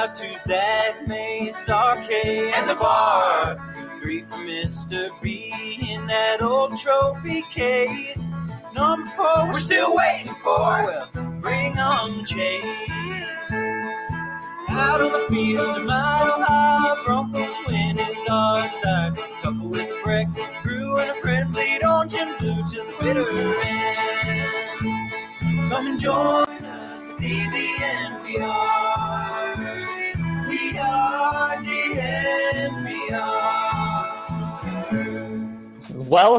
out to Zach Mace, RK, and the bar. 3 for Mr. B in that old trophy case. Number 4, we're still waiting for. Well, bring on Chase. Out on the field, a mile high, Broncos win is our desire. Couple with a breakfast crew and a friendly orange and blue to the bitter end. Come and join us at DNVR. We are DNVR.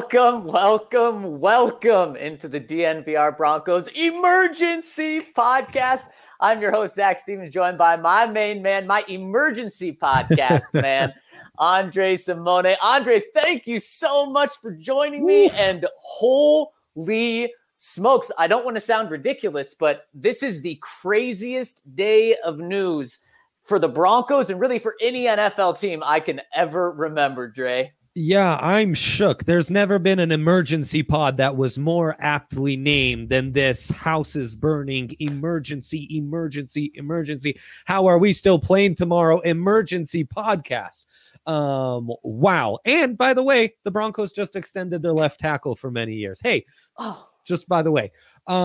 Welcome into the DNVR Broncos Emergency Podcast. I'm your host, Zach Stevens, joined by my main man, my emergency podcast man, Andre Simone. Andre, thank you so much for joining me. And holy smokes, I don't want to sound ridiculous, but this is the craziest day of news for the Broncos and really for any NFL team I can ever remember, Dre. Yeah, I'm shook. There's never been an emergency pod that was more aptly named than this house is burning emergency. How are we still playing tomorrow? Emergency podcast. Wow. And by the way, the Broncos just extended their left tackle for many years. Hey, just by the way,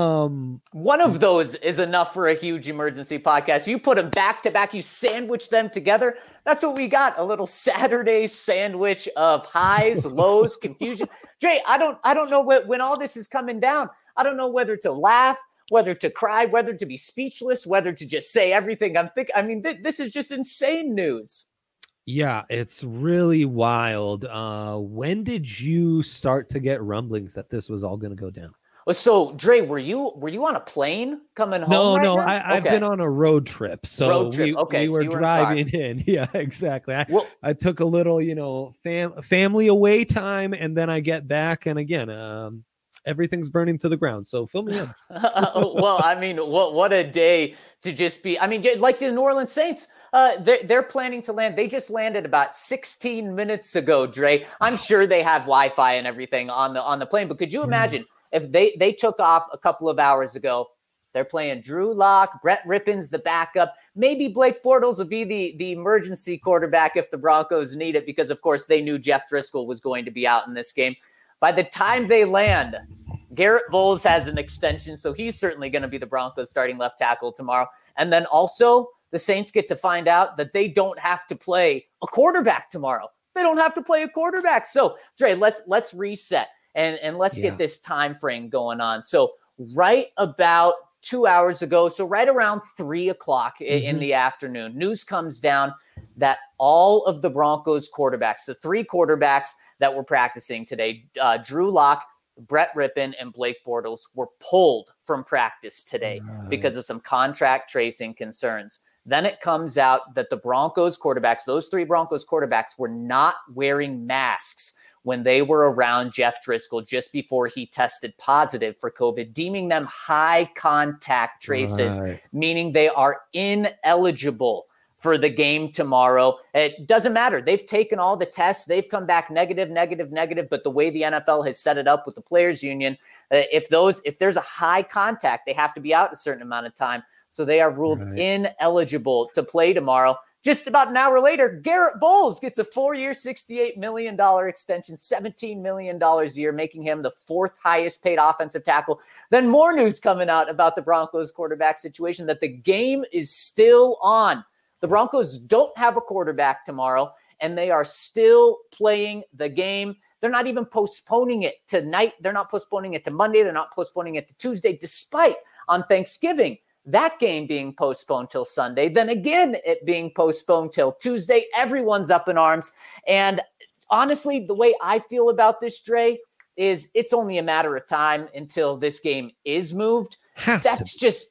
one of those is enough for a huge emergency podcast. You put them back to back, you sandwich them together. That's what we got. A little Saturday sandwich of highs, lows, confusion. Jay, I don't know when all this is coming down. I don't know whether to laugh, whether to cry, whether to be speechless, whether to just say everything I'm thinking. I mean, this is just insane news. Yeah, it's really wild. When did you start to get rumblings that this was all going to go down? So, Dre, were you on a plane coming home? No, I've been on a road trip. So we were driving in. Yeah, exactly. I took a little, family away time, and then I get back, and again, everything's burning to the ground. So fill me in. Well, I mean, what a day to just be. I mean, like the New Orleans Saints. They're planning to land. They just landed about 16 minutes ago, Dre. I'm sure they have Wi-Fi and everything on the plane, but could you imagine? If they took off a couple of hours ago, they're playing Drew Lock, Brett Rippon's the backup. Maybe Blake Bortles will be the emergency quarterback if the Broncos need it, because, of course, they knew Jeff Driscoll was going to be out in this game. By the time they land, Garrett Bowles has an extension, so he's certainly going to be the Broncos starting left tackle tomorrow. And then also the Saints get to find out that they don't have to play a quarterback tomorrow. They don't have to play a quarterback. So, Dre, let's reset. And let's get this time frame going on. So right about 2 hours ago, so right around 3 o'clock in the afternoon, news comes down that all of the Broncos quarterbacks, the 3 quarterbacks that were practicing today, Drew Lock, Brett Rippon, and Blake Bortles, were pulled from practice today because of some contract tracing concerns. Then it comes out that the Broncos quarterbacks, those 3 Broncos quarterbacks, were not wearing masks when they were around Jeff Driscoll just before he tested positive for COVID, deeming them high contact traces, meaning they are ineligible for the game tomorrow. It doesn't matter. They've taken all the tests. They've come back negative. But the way the NFL has set it up with the players union, if there's a high contact, they have to be out a certain amount of time. So they are ruled ineligible to play tomorrow. Just about an hour later, Garrett Bowles gets a 4-year, $68 million extension, $17 million a year, making him the 4th highest paid offensive tackle. Then more news coming out about the Broncos quarterback situation, that the game is still on. The Broncos don't have a quarterback tomorrow, and they are still playing the game. They're not even postponing it tonight. They're not postponing it to Monday. They're not postponing it to Tuesday, despite on Thanksgiving that game being postponed till Sunday, then again it being postponed till Tuesday. Everyone's up in arms. And honestly, the way I feel about this, Dre, is it's only a matter of time until this game is moved. That's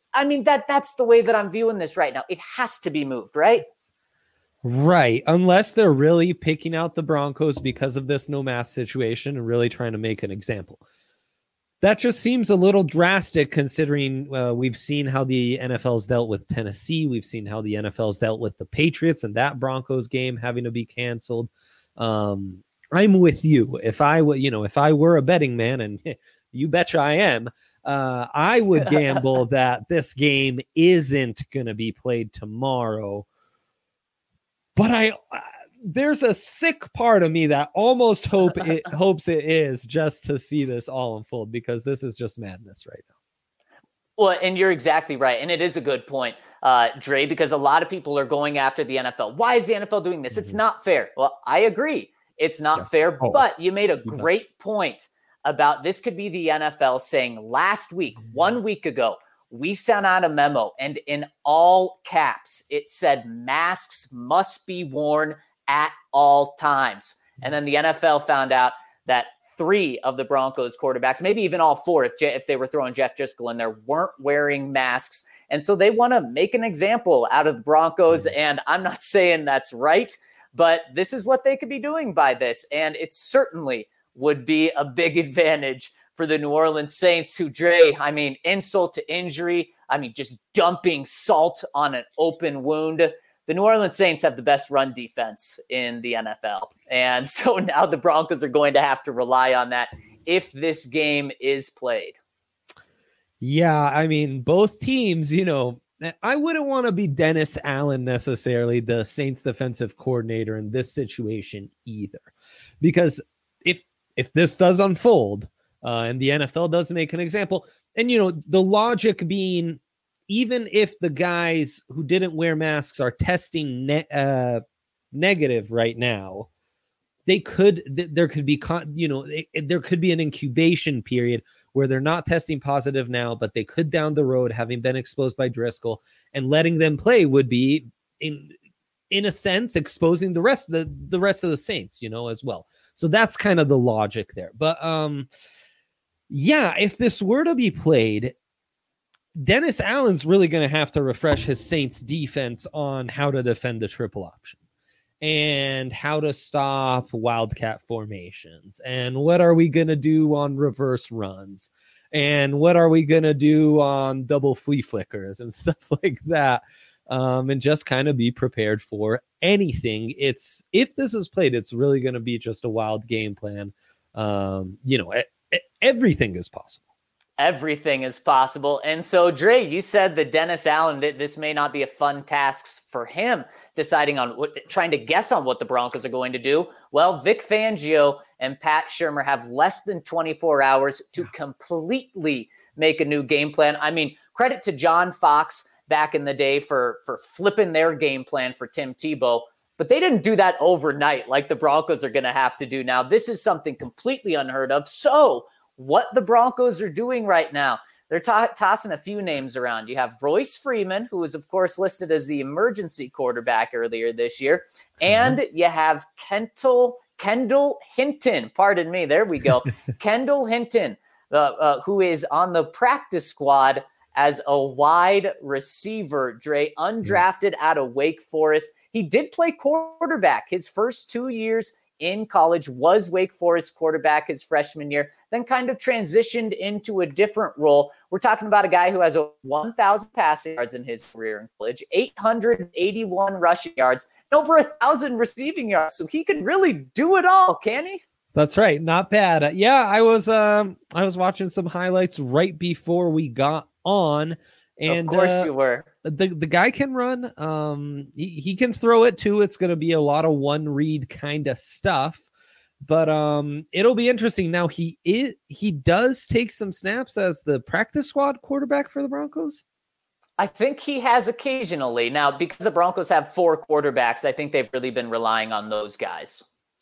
the way that I'm viewing this right now. It has to be moved, right? Right. Unless they're really picking out the Broncos because of this no mask situation and really trying to make an example. That just seems a little drastic considering we've seen how the NFL's dealt with Tennessee. We've seen how the NFL's dealt with the Patriots and that Broncos game having to be canceled. I'm with you. If I were a betting man, and you betcha I am, I would gamble that this game isn't going to be played tomorrow. But there's a sick part of me that almost hopes it is, just to see this all unfold, because this is just madness right now. Well, and you're exactly right. And it is a good point, Dre, because a lot of people are going after the NFL. Why is the NFL doing this? It's not fair. Well, I agree. It's not fair, but you made a great point about this could be the NFL saying last week, 1 week ago, we sent out a memo, and in all caps, it said masks must be worn at all times. And then the NFL found out that 3 of the Broncos quarterbacks, maybe even all 4, if they were throwing Jeff Driscoll in there, weren't wearing masks. And so they want to make an example out of the Broncos. And I'm not saying that's right, but this is what they could be doing by this. And it certainly would be a big advantage for the New Orleans Saints, who, Dre, I mean, insult to injury. I mean, just dumping salt on an open wound. The New Orleans Saints have the best run defense in the NFL. And so now the Broncos are going to have to rely on that if this game is played. Yeah, I mean, both teams, I wouldn't want to be Dennis Allen necessarily, the Saints defensive coordinator in this situation either. Because if this does unfold and the NFL does make an example, and, the logic being, even if the guys who didn't wear masks are testing negative right now, there could be an incubation period where they're not testing positive now, but they could down the road, having been exposed by Driscoll, and letting them play would be in a sense exposing the rest of the Saints, as well. So that's kind of the logic there. But if this were to be played, Dennis Allen's really going to have to refresh his Saints defense on how to defend the triple option and how to stop wildcat formations. And what are we going to do on reverse runs? And what are we going to do on double flea flickers and stuff like that? And just kind of be prepared for anything. If this is played, it's really going to be just a wild game plan. Everything is possible. Everything is possible. And so, Dre, you said that Dennis Allen, this may not be a fun task for him, trying to guess on what the Broncos are going to do. Well, Vic Fangio and Pat Shurmur have less than 24 hours to completely make a new game plan. I mean, credit to John Fox back in the day for flipping their game plan for Tim Tebow, but they didn't do that overnight like the Broncos are going to have to do now. This is something completely unheard of. So what the Broncos are doing right now, they're tossing a few names around. You have Royce Freeman, who was, of course, listed as the emergency quarterback earlier this year. And you have Kendall Hinton. Pardon me. There we go. Kendall Hinton, who is on the practice squad as a wide receiver, Dre, undrafted out of Wake Forest. He did play quarterback his first 2 years in college, was Wake Forest quarterback his freshman year, then kind of transitioned into a different role. We're talking about a guy who has 1,000 passing yards in his career in college, 881 rushing yards, and over 1,000 receiving yards. So he can really do it all, can he? That's right. Not bad. I was watching some highlights right before we got on. And of course you were. The guy can run. He can throw it too. It's going to be a lot of one read kind of stuff, but it'll be interesting. Now he does take some snaps as the practice squad quarterback for the Broncos. I think he has occasionally. Now, because the Broncos have 4 quarterbacks, I think they've really been relying on those guys.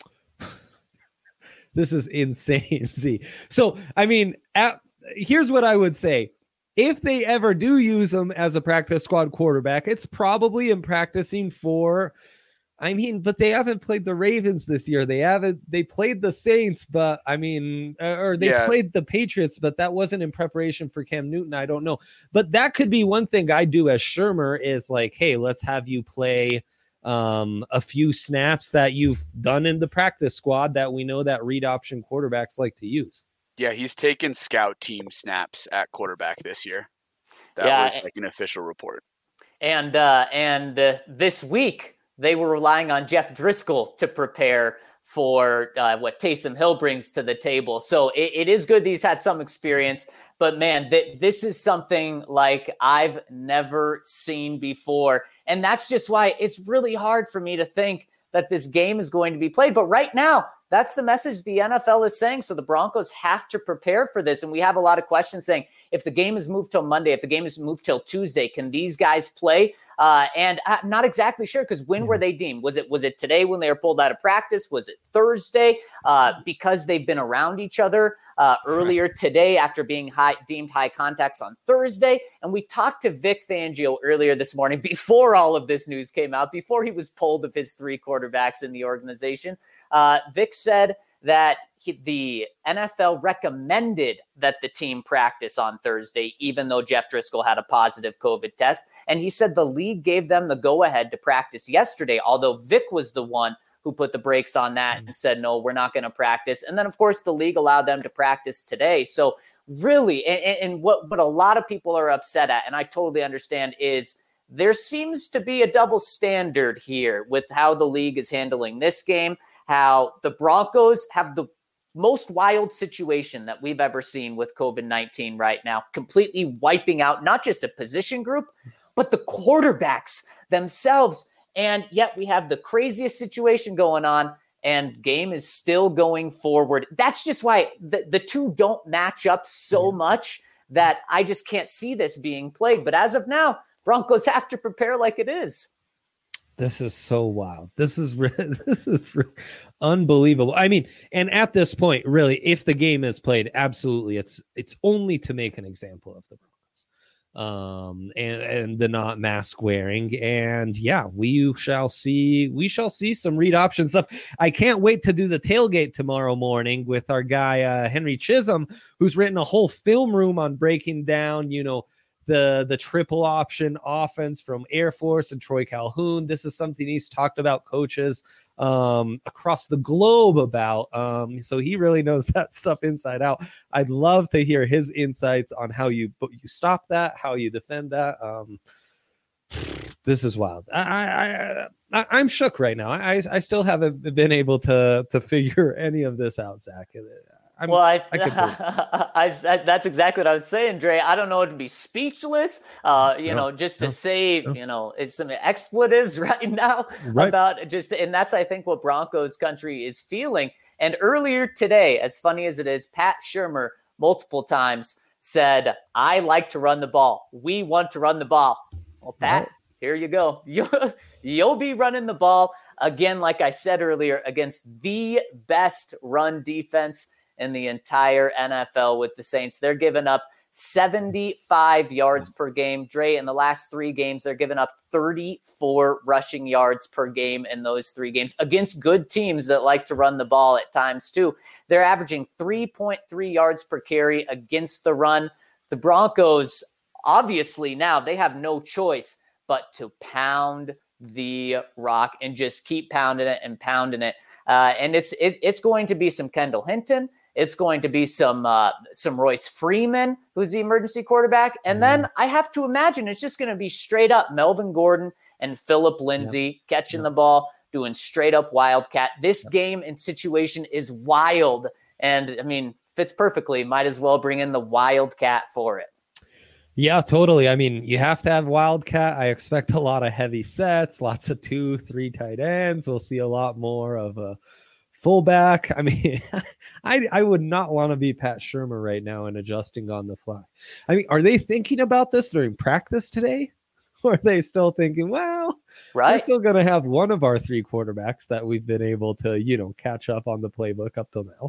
This is insane. See, so I mean, here's what I would say. If they ever do use him as a practice squad quarterback, it's probably in practicing but they haven't played the Ravens this year. They played the Saints, but played the Patriots, but that wasn't in preparation for Cam Newton. I don't know. But that could be one thing I do as Shurmur is like, hey, let's have you play a few snaps that you've done in the practice squad that we know that read option quarterbacks like to use. Yeah, he's taken scout team snaps at quarterback this year. That was like an official report. And this week, they were relying on Jeff Driscoll to prepare for what Taysom Hill brings to the table. So it is good that he's had some experience, but man, this is something like I've never seen before. And that's just why it's really hard for me to think that this game is going to be played. But right now, that's the message the NFL is saying. So the Broncos have to prepare for this. And we have a lot of questions saying, if the game is moved till Monday, if the game is moved till Tuesday, can these guys play? And I'm not exactly sure, because when were they deemed? Was it today when they were pulled out of practice? Was it Thursday? Because they've been around each other earlier today after being deemed high contacts on Thursday. And we talked to Vic Fangio earlier this morning before all of this news came out, before he was pulled of his 3 quarterbacks in the organization. Vic said that the NFL recommended that the team practice on Thursday, even though Jeff Driscoll had a positive COVID test. And he said the league gave them the go-ahead to practice yesterday, although Vic was the one who put the brakes on that and said, no, we're not going to practice. And then, of course, the league allowed them to practice today. So really, and what a lot of people are upset at, and I totally understand, is there seems to be a double standard here with how the league is handling this game, how the Broncos have the most wild situation that we've ever seen with COVID-19 right now, completely wiping out not just a position group, but the quarterbacks themselves. And yet we have the craziest situation going on, and game is still going forward. That's just why the two don't match up so much that I just can't see this being played. But as of now, Broncos have to prepare like it is. This is so wild. This is unbelievable. I mean, and at this point, really, if the game is played, absolutely, it's only to make an example of the Broncos, and the not mask wearing. And yeah, we shall see some read option stuff. I can't wait to do the tailgate tomorrow morning with our guy Henry Chisholm, who's written a whole film room on breaking down, the triple option offense from Air Force and Troy Calhoun. This is something he's talked about coaches across the globe about. So he really knows that stuff inside out. I'd love to hear his insights on how you stop that, how you defend that. This is wild. I'm shook right now. I still haven't been able to figure any of this out, Zach. That's exactly what I was saying, Dre. I don't know what to be speechless, just to say, it's some expletives right now about just, and that's, I think, what Broncos country is feeling. And earlier today, as funny as it is, Pat Shurmur multiple times said, I like to run the ball. We want to run the ball. Well, Pat, here you go. You'll be running the ball again, like I said earlier, against the best run defense in the entire NFL with the Saints. They're giving up 75 yards per game. Dre, in the last 3 games, they're giving up 34 rushing yards per game in those 3 games against good teams that like to run the ball at times too. They're averaging 3.3 yards per carry against the run. The Broncos, obviously now, they have no choice but to pound the rock and just keep pounding it and pounding it. And it's going to be some Kendall Hinton. It's going to be some Royce Freeman, who's the emergency quarterback. And then I have to imagine it's just going to be straight up Melvin Gordon and Phillip Lindsay catching the ball, doing straight up Wildcat. This game and situation is wild. And I mean, fits perfectly. Might as well bring in the Wildcat for it. Yeah, totally. I mean, you have to have Wildcat. I expect a lot of heavy sets, lots of 2-3 tight ends. We'll see a lot more of a fullback. I mean, I would not want to be Pat Shurmur right now and adjusting on the fly. I mean, are they thinking about this during practice today? Or are they still thinking, well, we're still going to have one of our 3 quarterbacks that we've been able to, catch up on the playbook up till now?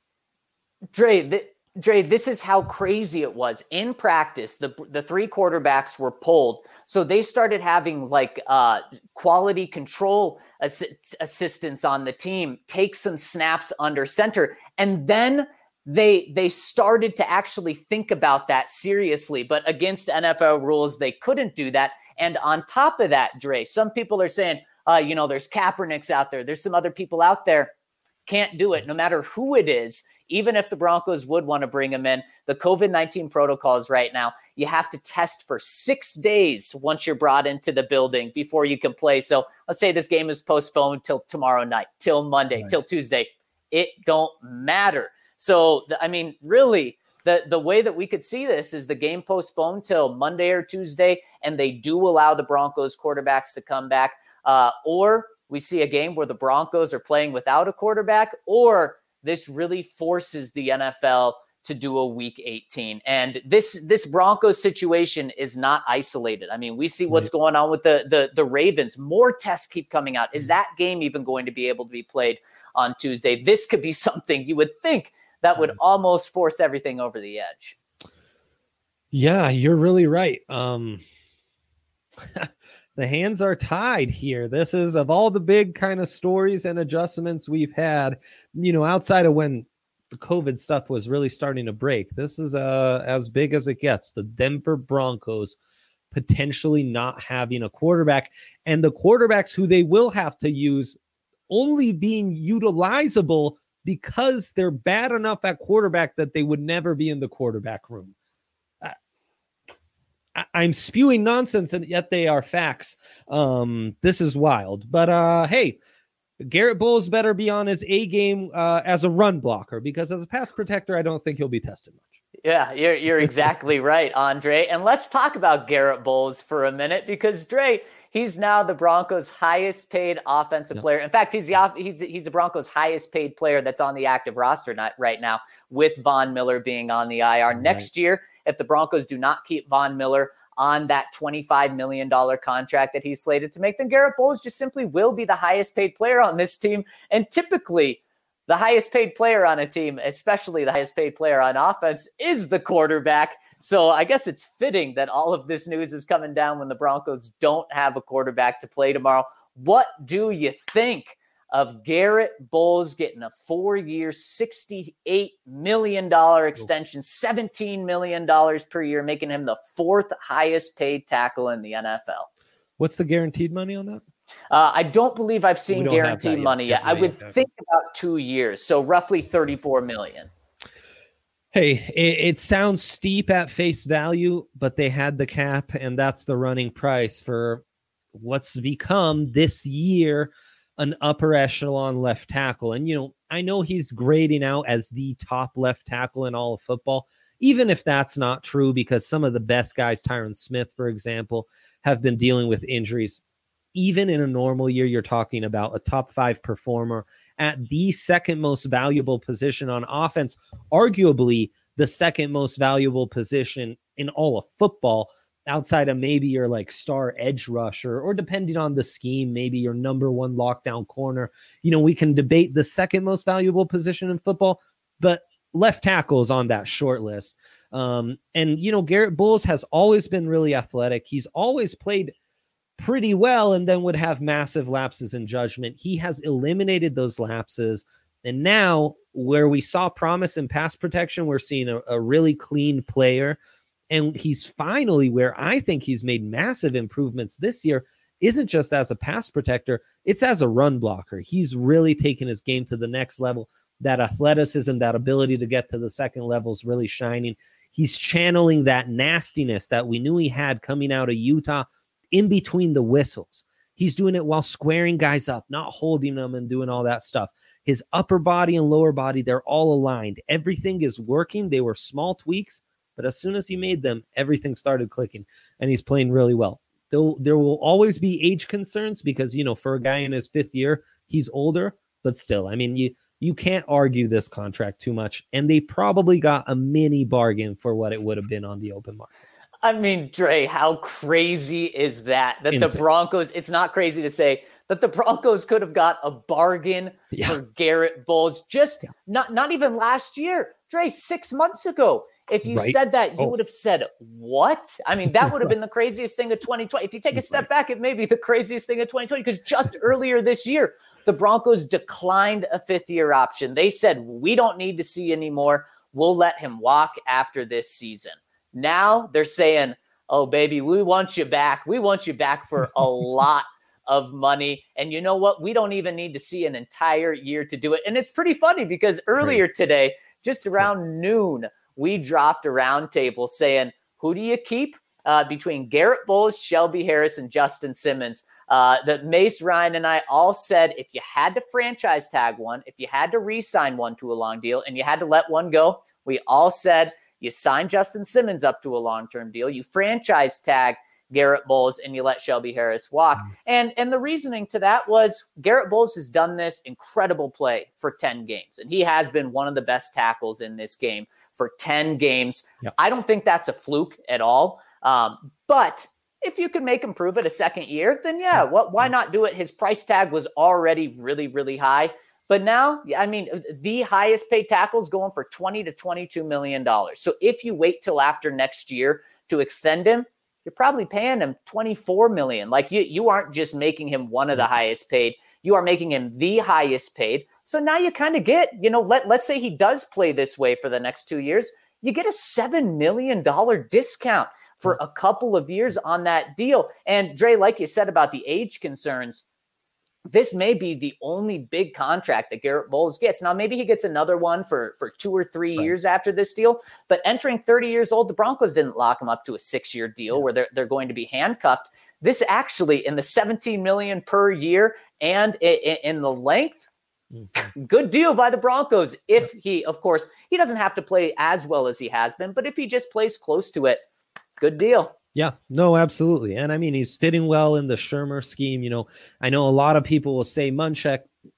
Dre, this is how crazy it was. In practice, the 3 quarterbacks were pulled. So they started having quality control assistants on the team take some snaps under center. And then they started to actually think about that seriously. But against NFL rules, they couldn't do that. And on top of that, Dre, some people are saying, there's Kaepernicks out there. There's some other people out there. Can't do it no matter who it is. even if the Broncos would want to bring him in, the COVID-19 protocols right now, you have to test for 6 days once you're brought into the building before you can play. So let's say this game is postponed till tomorrow night, till Monday, till Tuesday. It don't matter. So, I mean, really, the way that we could see this is the game postponed till Monday or Tuesday, and they do allow the Broncos quarterbacks to come back, or we see a game where the Broncos are playing without a quarterback, or this really forces the NFL to do a week 18. And this Broncos situation is not isolated. I mean, we see what's going on with the Ravens. More tests keep coming out. Is that game even going to be able to be played on Tuesday? This could be something you would think that would almost force everything over the edge. Yeah, you're really right. The hands are tied here. This is, of all the big kind of stories and adjustments we've had, outside of when the COVID stuff was really starting to break, this is as big as it gets. The Denver Broncos potentially not having a quarterback, and the quarterbacks who they will have to use only being utilizable because they're bad enough at quarterback that they would never be in the quarterback room. I'm spewing nonsense, and yet they are facts. This is wild. But hey, Garrett Bowles better be on his A game as a run blocker, because as a pass protector, I don't think he'll be tested much. Yeah, you're exactly right, Andre. And let's talk about Garrett Bowles for a minute, because Dre, he's now the Broncos' highest paid offensive player. In fact, he's the Broncos' highest paid player that's on the active roster right now, with Von Miller being on the IR. Next year, if the Broncos do not keep Von Miller on that $25 million contract that he's slated to make, then Garrett Bowles just simply will be the highest paid player on this team. And typically, the highest paid player on a team, especially the highest paid player on offense, is the quarterback. So I guess it's fitting that all of this news is coming down when the Broncos don't have a quarterback to play tomorrow. What do you think of Garrett Bowles getting a 4-year, $68 million extension, $17 million per year, making him the 4th highest paid tackle in the NFL? What's the guaranteed money on that? I don't believe I've seen guaranteed money yet. I would think about 2 years, so roughly $34 million. Hey, it sounds steep at face value, but they had the cap, and that's the running price for what's become this year an upper echelon left tackle. And, I know he's grading out as the top left tackle in all of football, even if that's not true, because some of the best guys, Tyron Smith, for example, have been dealing with injuries. Even in a normal year, you're talking about a top 5 performer at the second most valuable position on offense, arguably the second most valuable position in all of football, outside of maybe your like star edge rusher, or depending on the scheme, maybe your number 1 lockdown corner. We can debate the second most valuable position in football, but left tackle is on that short list. And Garrett Bowles has always been really athletic. He's always played pretty well, and then would have massive lapses in judgment. He has eliminated those lapses. And now, where we saw promise in pass protection, we're seeing a really clean player. And he's finally, where I think he's made massive improvements this year, isn't just as a pass protector, it's as a run blocker. He's really taken his game to the next level. That athleticism, that ability to get to the second level is really shining. He's channeling that nastiness that we knew he had coming out of Utah in between the whistles. He's doing it while squaring guys up, not holding them and doing all that stuff. His upper body and lower body, they're all aligned. Everything is working. They were small tweaks, but as soon as he made them, everything started clicking, and he's playing really well. There will always be age concerns because, for a guy in his 5th year, he's older, but still, I mean, you can't argue this contract too much, and they probably got a mini bargain for what it would have been on the open market. I mean, Dre, how crazy is that? That Insane. The Broncos, it's not crazy to say that the Broncos could have got a bargain for Garrett Bowles not even last year. Dre, 6 months ago. If you said that, you would have said, what? I mean, that would have been the craziest thing of 2020. If you take a step back, it may be the craziest thing of 2020, because just earlier this year, the Broncos declined a 5th-year option. They said, we don't need to see anymore. We'll let him walk after this season. Now they're saying, oh, baby, we want you back. We want you back for a lot of money. And you know what? We don't even need to see an entire year to do it. And it's pretty funny because earlier today, just around noon, we dropped a roundtable saying, who do you keep between Garrett Bowles, Shelby Harris, and Justin Simmons? That Mace, Ryan, and I all said if you had to franchise tag one, if you had to re-sign one to a long deal, and you had to let one go, we all said you sign Justin Simmons up to a long-term deal, you franchise tag Garrett Bowles, and you let Shelby Harris walk. And the reasoning to that was Garrett Bowles has done this incredible play for 10 games, and he has been one of the best tackles in this game for 10 games. Yep. I don't think that's a fluke at all. But if you could make him prove it a second year, then yeah, why not do it? His price tag was already really, really high. But now, I mean, the highest paid tackle is going for $20 to $22 million. So if you wait till after next year to extend him, you're probably paying him $24 million. Like you aren't just making him one of the highest paid. You are making him the highest paid. So now you kind of get, let's say he does play this way for the next 2 years. You get a $7 million discount for a couple of years on that deal. And Dre, like you said about the age concerns, this may be the only big contract that Garrett Bowles gets. Now, maybe he gets another one for 2 or 3 years after this deal, but entering 30 years old, the Broncos didn't lock him up to a 6-year deal where they're going to be handcuffed. This actually, in the $17 million per year and in the length, good deal by the Broncos. If he, of course, he doesn't have to play as well as he has been, but if he just plays close to it, good deal. Yeah, no, absolutely. And I mean, he's fitting well in the Shurmur scheme. I know a lot of people will say Munchak,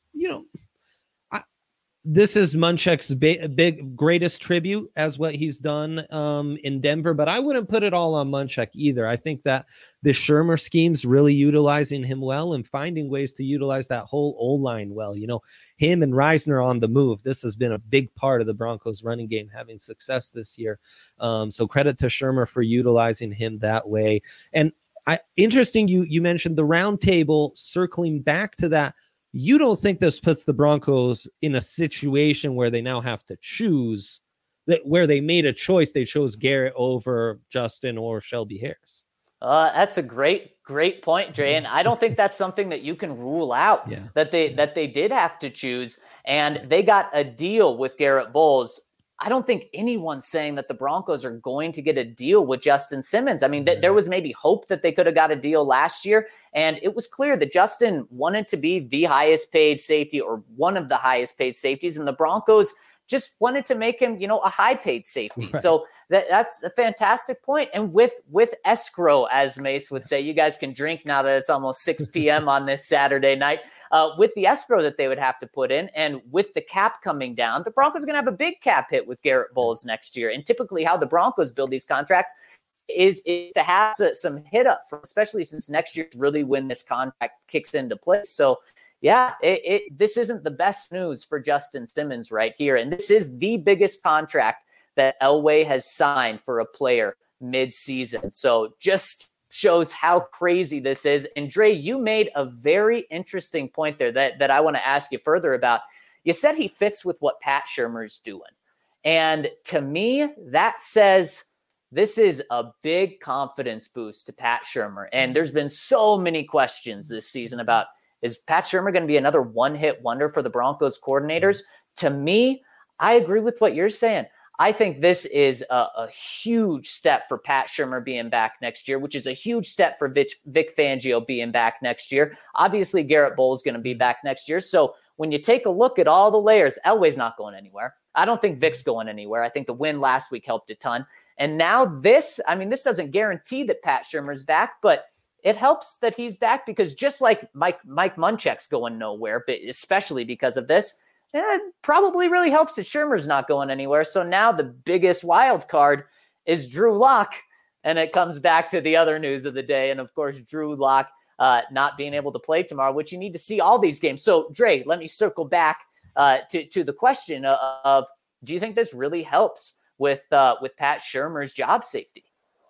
this is Munchak's greatest tribute as what he's done in Denver, but I wouldn't put it all on Munchak either. I think that the Shurmur scheme's really utilizing him well and finding ways to utilize that whole O-line well. Him and Reisner on the move. This has been a big part of the Broncos running game having success this year. So credit to Shurmur for utilizing him that way. And interesting, you mentioned the round table. Circling back to that, you don't think this puts the Broncos in a situation where they now have to choose, that where they made a choice, they chose Garrett over Justin or Shelby Harris? That's a great point, Dre. And I don't think that's something that you can rule out, that they did have to choose, and they got a deal with Garrett Bowles. I don't think anyone's saying that the Broncos are going to get a deal with Justin Simmons. I mean, there was maybe hope that they could have got a deal last year, and it was clear that Justin wanted to be the highest paid safety or one of the highest paid safeties, and the Broncos just wanted to make him, a high paid safety. Right. So that's a fantastic point. And with escrow, as Mace would say, you guys can drink now that it's almost 6 p.m. on this Saturday night. With the escrow that they would have to put in, and with the cap coming down, the Broncos are going to have a big cap hit with Garrett Bowles next year. And typically how the Broncos build these contracts is to have some hit up, especially since next year really when this contract kicks into place. So yeah, this isn't the best news for Justin Simmons right here. And this is the biggest contract that Elway has signed for a player mid-season. So just shows how crazy this is. And Dre, you made a very interesting point there that I want to ask you further about. You said he fits with what Pat Shurmur's doing. And to me, that says this is a big confidence boost to Pat Shurmur. And there's been so many questions this season about, is Pat Shurmur going to be another one-hit wonder for the Broncos coordinators? To me, I agree with what you're saying. I think this is a huge step for Pat Shurmur being back next year, which is a huge step for Vic Fangio being back next year. Obviously, Garrett Bowles is going to be back next year. So when you take a look at all the layers, Elway's not going anywhere. I don't think Vic's going anywhere. I think the win last week helped a ton. And now this doesn't guarantee that Pat Shurmur's back, but it helps that he's back, because just like Mike Munchak's going nowhere, but especially because of this, it probably really helps that Shurmur's not going anywhere. So now the biggest wild card is Drew Lock, and it comes back to the other news of the day. And of course, Drew Lock not being able to play tomorrow, which you need to see all these games. So Dre, let me circle back to the question of, do you think this really helps with Pat Shurmur's job safety?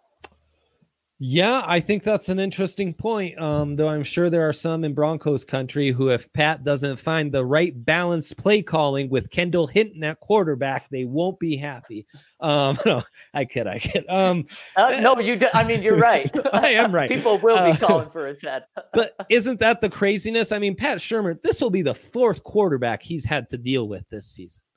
Yeah, I think that's an interesting point. Though I'm sure there are some in Broncos country who, if Pat doesn't find the right balanced play calling with Kendall Hinton at quarterback, they won't be happy. No, I kid. No, you do. I mean, you're right. I am right. People will be calling for his head. But isn't that the craziness? I mean, Pat Shurmur, this will be the fourth quarterback he's had to deal with this season.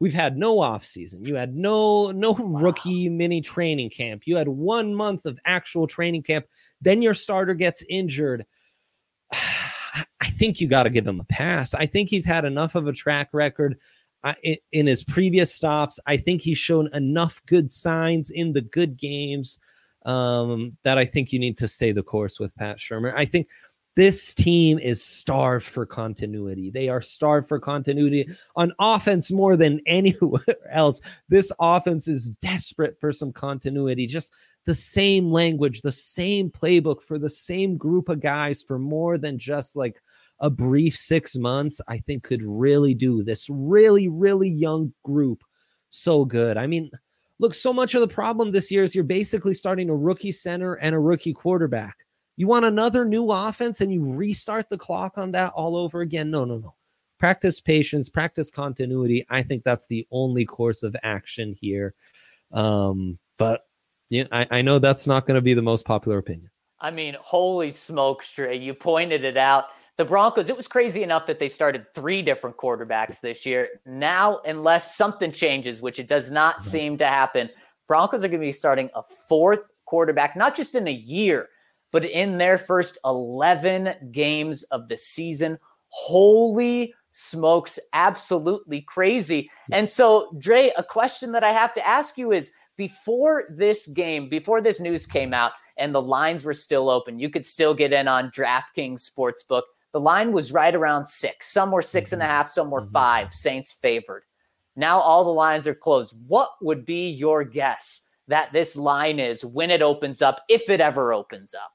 We've had no offseason. You had no rookie mini training camp. You had 1 month of actual training camp. Then your starter gets injured. I think you got to give him a pass. I think he's had enough of a track record in his previous stops. I think he's shown enough good signs in the good games that I think you need to stay the course with Pat Shurmur. I think this team is starved for continuity. They are starved for continuity on offense more than anywhere else. This offense is desperate for some continuity. Just the same language, the same playbook for the same group of guys for more than just like a brief 6 months, I think could really do this really, really young group so good. I mean, look, so much of the problem this year is you're basically starting a rookie center and a rookie quarterback. You want another new offense and you restart the clock on that all over again? No. Practice patience, practice continuity. I think that's the only course of action here. But yeah, I know that's not going to be the most popular opinion. I mean, holy smokes, Trey, you pointed it out. The Broncos, it was crazy enough that they started 3 different quarterbacks this year. Now, unless something changes, which it does not seem to happen, Broncos are going to be starting a 4th quarterback, not just in a year, but in their first 11 games of the season. Holy smokes, absolutely crazy. And so, Dre, a question that I have to ask you is, before this news came out and the lines were still open, you could still get in on DraftKings Sportsbook. The line was right around 6. Some were 6.5, some were 5. Saints favored. Now all the lines are closed. What would be your guess that this line is when it opens up, if it ever opens up?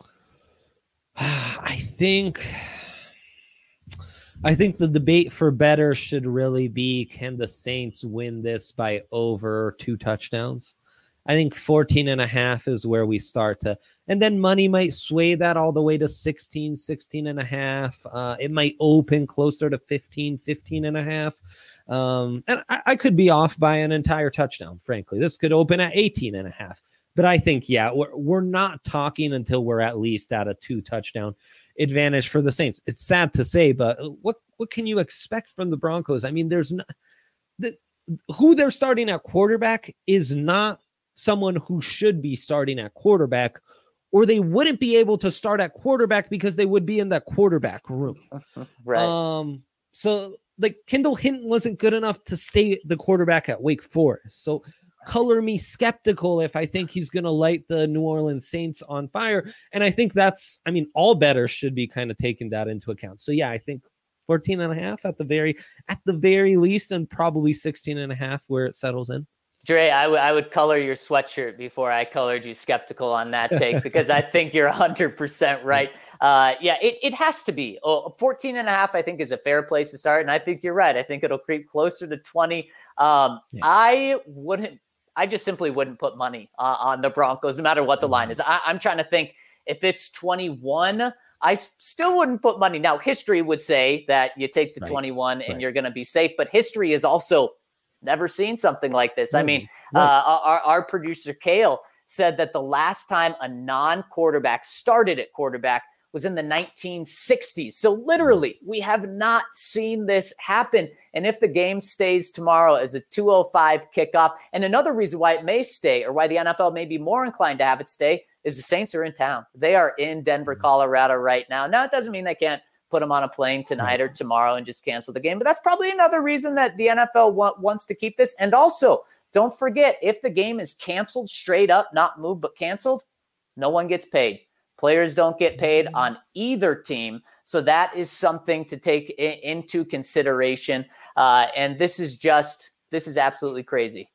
I think the debate for better should really be, can the Saints win this by over 2 touchdowns? I think 14.5 is where we start to, and then money might sway that all the way to 16.5. It might open closer to 15.5. And I could be off by an entire touchdown, frankly. This could open at 18.5. But I think, yeah, we're not talking until we're at least at a 2 touchdown advantage for the Saints. It's sad to say, but what can you expect from the Broncos? I mean, there's who they're starting at quarterback is not someone who should be starting at quarterback, or they wouldn't be able to start at quarterback because they would be in that quarterback room. Right. So like Kendall Hinton wasn't good enough to stay the quarterback at Wake Forest. So color me skeptical if I think he's going to light the New Orleans Saints on fire. And I think all bettors should be kind of taking that into account. So yeah, I think 14.5 at the very least, and probably 16.5 where it settles in. Dre, I would color your sweatshirt before I colored you skeptical on that take, because I think you're 100% right. It has to be. 14.5, I think, is a fair place to start. And I think you're right. I think it'll creep closer to 20. I just simply wouldn't put money on the Broncos, no matter what the line is. I'm trying to think, if it's 21, I still wouldn't put money. Now, history would say that you take the 21 and you're going to be safe. But history is also never seen something like this. I mean, our producer, Kale, said that the last time a non-quarterback started at quarterback was in the 1960s. So literally, we have not seen this happen. And if the game stays tomorrow as a 2:05 kickoff, and another reason why it may stay, or why the NFL may be more inclined to have it stay, is the Saints are in town. They are in Denver, Colorado right now. Now, it doesn't mean they can't put them on a plane tonight or tomorrow and just cancel the game. But that's probably another reason that the NFL wants to keep this. And also, don't forget, if the game is canceled straight up, not moved, but canceled, no one gets paid. Players don't get paid on either team. So that is something to take into consideration. And this is absolutely crazy.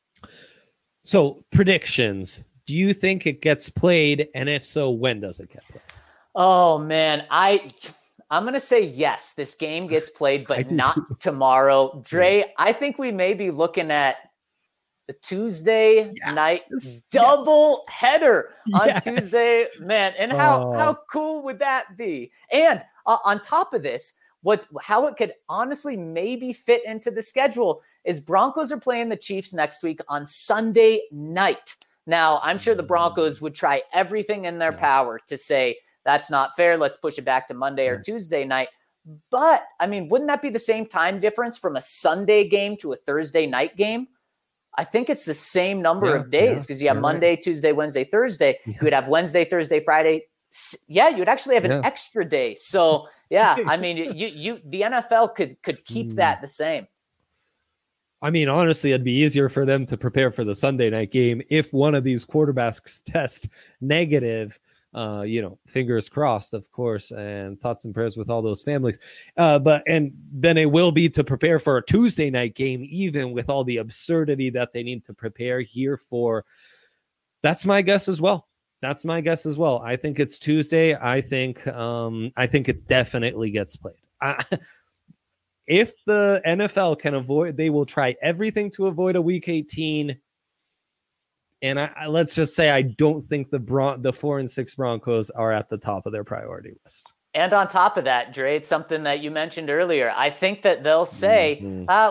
So predictions. Do you think it gets played? And if so, when does it get played? Oh, man. I'm going to say yes, this game gets played, but not tomorrow. Dre, I think we may be looking at the Tuesday night double header on Tuesday, man. And how cool would that be? And on top of this, how it could honestly maybe fit into the schedule is Broncos are playing the Chiefs next week on Sunday night. Now, I'm sure the Broncos would try everything in their power to say, that's not fair. Let's push it back to Monday or Tuesday night. But I mean, wouldn't that be the same time difference from a Sunday game to a Thursday night game? I think it's the same number of days because you have Monday, right. Tuesday, Wednesday, Thursday. Yeah. You would have Wednesday, Thursday, Friday. Yeah, you would actually have an extra day. So yeah, I mean, the NFL could keep that the same. I mean, honestly, it'd be easier for them to prepare for the Sunday night game if one of these quarterbacks test negative. Fingers crossed, of course, and thoughts and prayers with all those families. But then it will be to prepare for a Tuesday night game, even with all the absurdity that they need to prepare here for. That's my guess as well. I think it's Tuesday. I think it definitely gets played. If the NFL can avoid, they will try everything to avoid a Week 18. And let's just say I don't think the 4-6 Broncos are at the top of their priority list. And on top of that, Dre, it's something that you mentioned earlier. I think that they'll say,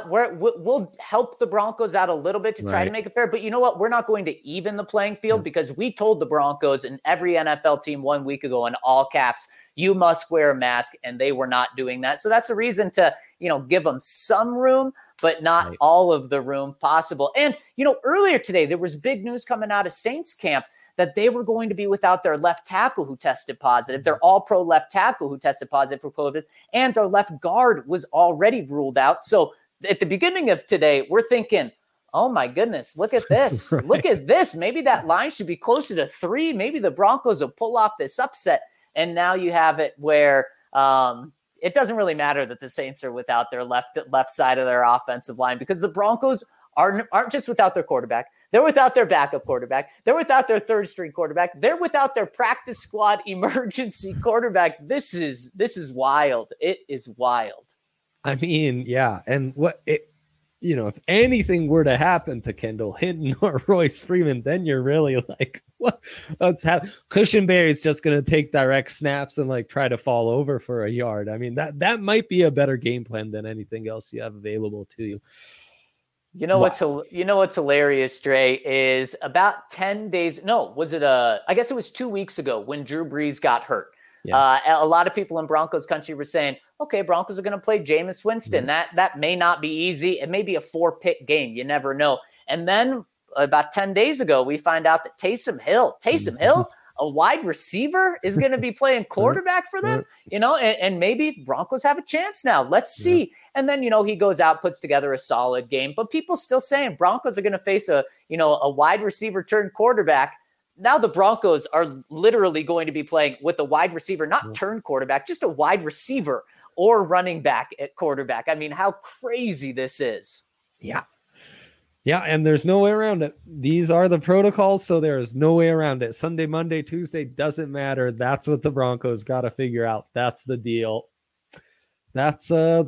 we'll help the Broncos out a little bit to try to make it fair. But you know what? We're not going to even the playing field because we told the Broncos and every NFL team 1 week ago in all caps, you must wear a mask, and they were not doing that. So that's a reason to, give them some room, but not all of the room possible. And, earlier today, there was big news coming out of Saints camp that they were going to be without their left tackle who tested positive, their all-pro left tackle who tested positive for COVID, and their left guard was already ruled out. So at the beginning of today, we're thinking, oh my goodness, look at this. Look at this. Maybe that line should be closer to 3. Maybe the Broncos will pull off this upset. And now you have it where it doesn't really matter that the Saints are without their left side of their offensive line because the Broncos aren't just without their quarterback. They're without their backup quarterback. They're without their third string quarterback. They're without their practice squad emergency quarterback. This is wild. It is wild. I mean, yeah. And if anything were to happen to Kendall Hinton or Royce Freeman, then you're really like, what's happening? Cushenberry's just going to take direct snaps and try to fall over for a yard. I mean, that might be a better game plan than anything else you have available to you. What's hilarious, Dre, is about 10 days. No, I guess it was 2 weeks ago when Drew Brees got hurt. Yeah. A lot of people in Broncos country were saying, okay, Broncos are going to play Jameis Winston. That may not be easy. It may be a 4-pick game. You never know. And then about 10 days ago, we find out that Taysom Hill, a wide receiver, is going to be playing quarterback for them, and maybe Broncos have a chance now. Let's see. Yeah. And then, he goes out, puts together a solid game, but people still saying Broncos are going to face a wide receiver turned quarterback. Now the Broncos are literally going to be playing with a wide receiver, not turned quarterback, just a wide receiver or running back at quarterback. I mean, how crazy this is. Yeah. Yeah, and there's no way around it. These are the protocols, so there is no way around it. Sunday, Monday, Tuesday, doesn't matter. That's what the Broncos got to figure out. That's the deal. That's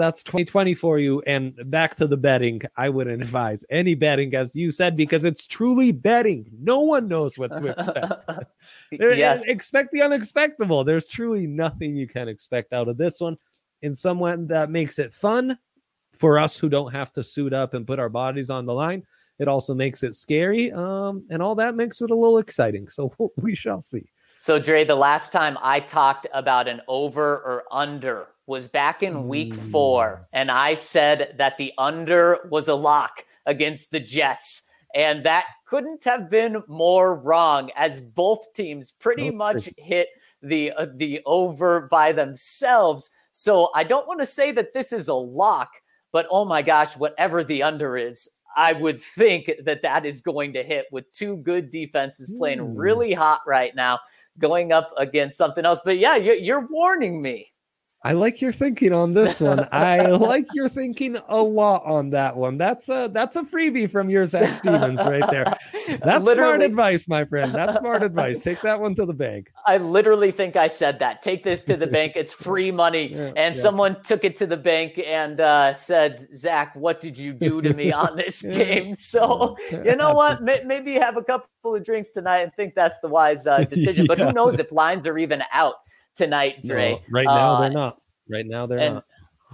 2020 for you. And back to the betting. I wouldn't advise any betting, as you said, because it's truly betting. No one knows what to expect. Yes. Expect the unexpectable. There's truly nothing you can expect out of this one. In someone that makes it fun for us who don't have to suit up and put our bodies on the line. It also makes it scary, and all that makes it a little exciting. So we shall see. So, Dre, the last time I talked about an over or under was back in week 4, and I said that the under was a lock against the Jets, and that couldn't have been more wrong, as both teams pretty much hit the over by themselves. So I don't want to say that this is a lock, but oh my gosh, whatever the under is, I would think that is going to hit with 2 good defenses playing really hot right now, going up against something else. But yeah, you're warning me. I like your thinking on this one. I like your thinking a lot on that one. That's a freebie from your Zach Stevens right there. That's smart advice, my friend. That's smart advice. Take that one to the bank. I literally think I said that. Take this to the bank. It's free money. Someone took it to the bank and said, Zach, what did you do to me on this game? So you know what? Maybe have a couple of drinks tonight and think that's the wise decision. But who knows if lines are even out tonight, Dre. No, right now they're not. Right now they're not.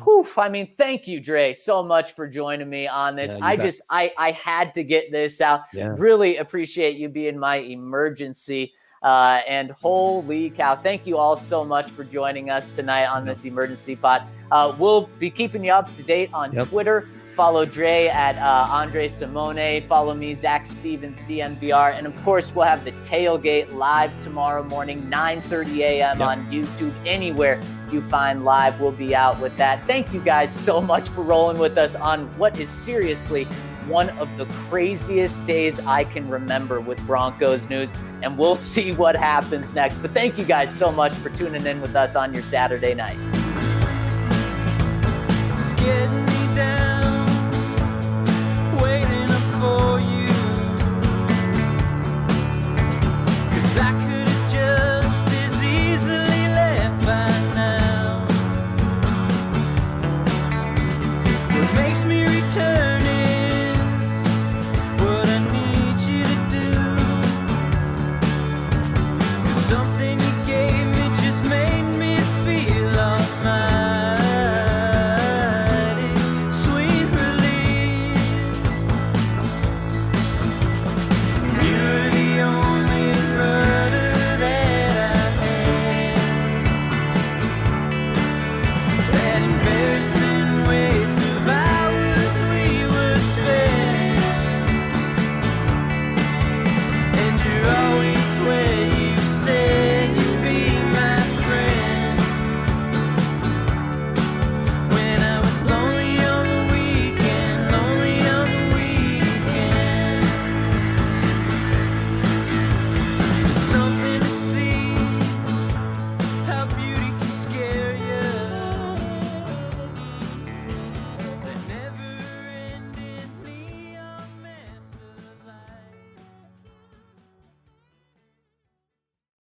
I mean, thank you, Dre, so much for joining me on this. I had to get this out. Yeah. Really appreciate you being my emergency And holy cow, thank you all so much for joining us tonight on this emergency pod. We'll be keeping you up to date on Twitter. Follow Dre at Andre Simone. Follow me, Zach Stevens, DNVR. And of course, we'll have the tailgate live tomorrow morning, 9:30 a.m. on YouTube. Anywhere you find live, we'll be out with that. Thank you guys so much for rolling with us on what is seriously one of the craziest days I can remember with Broncos news. And we'll see what happens next. But thank you guys so much for tuning in with us on your Saturday night.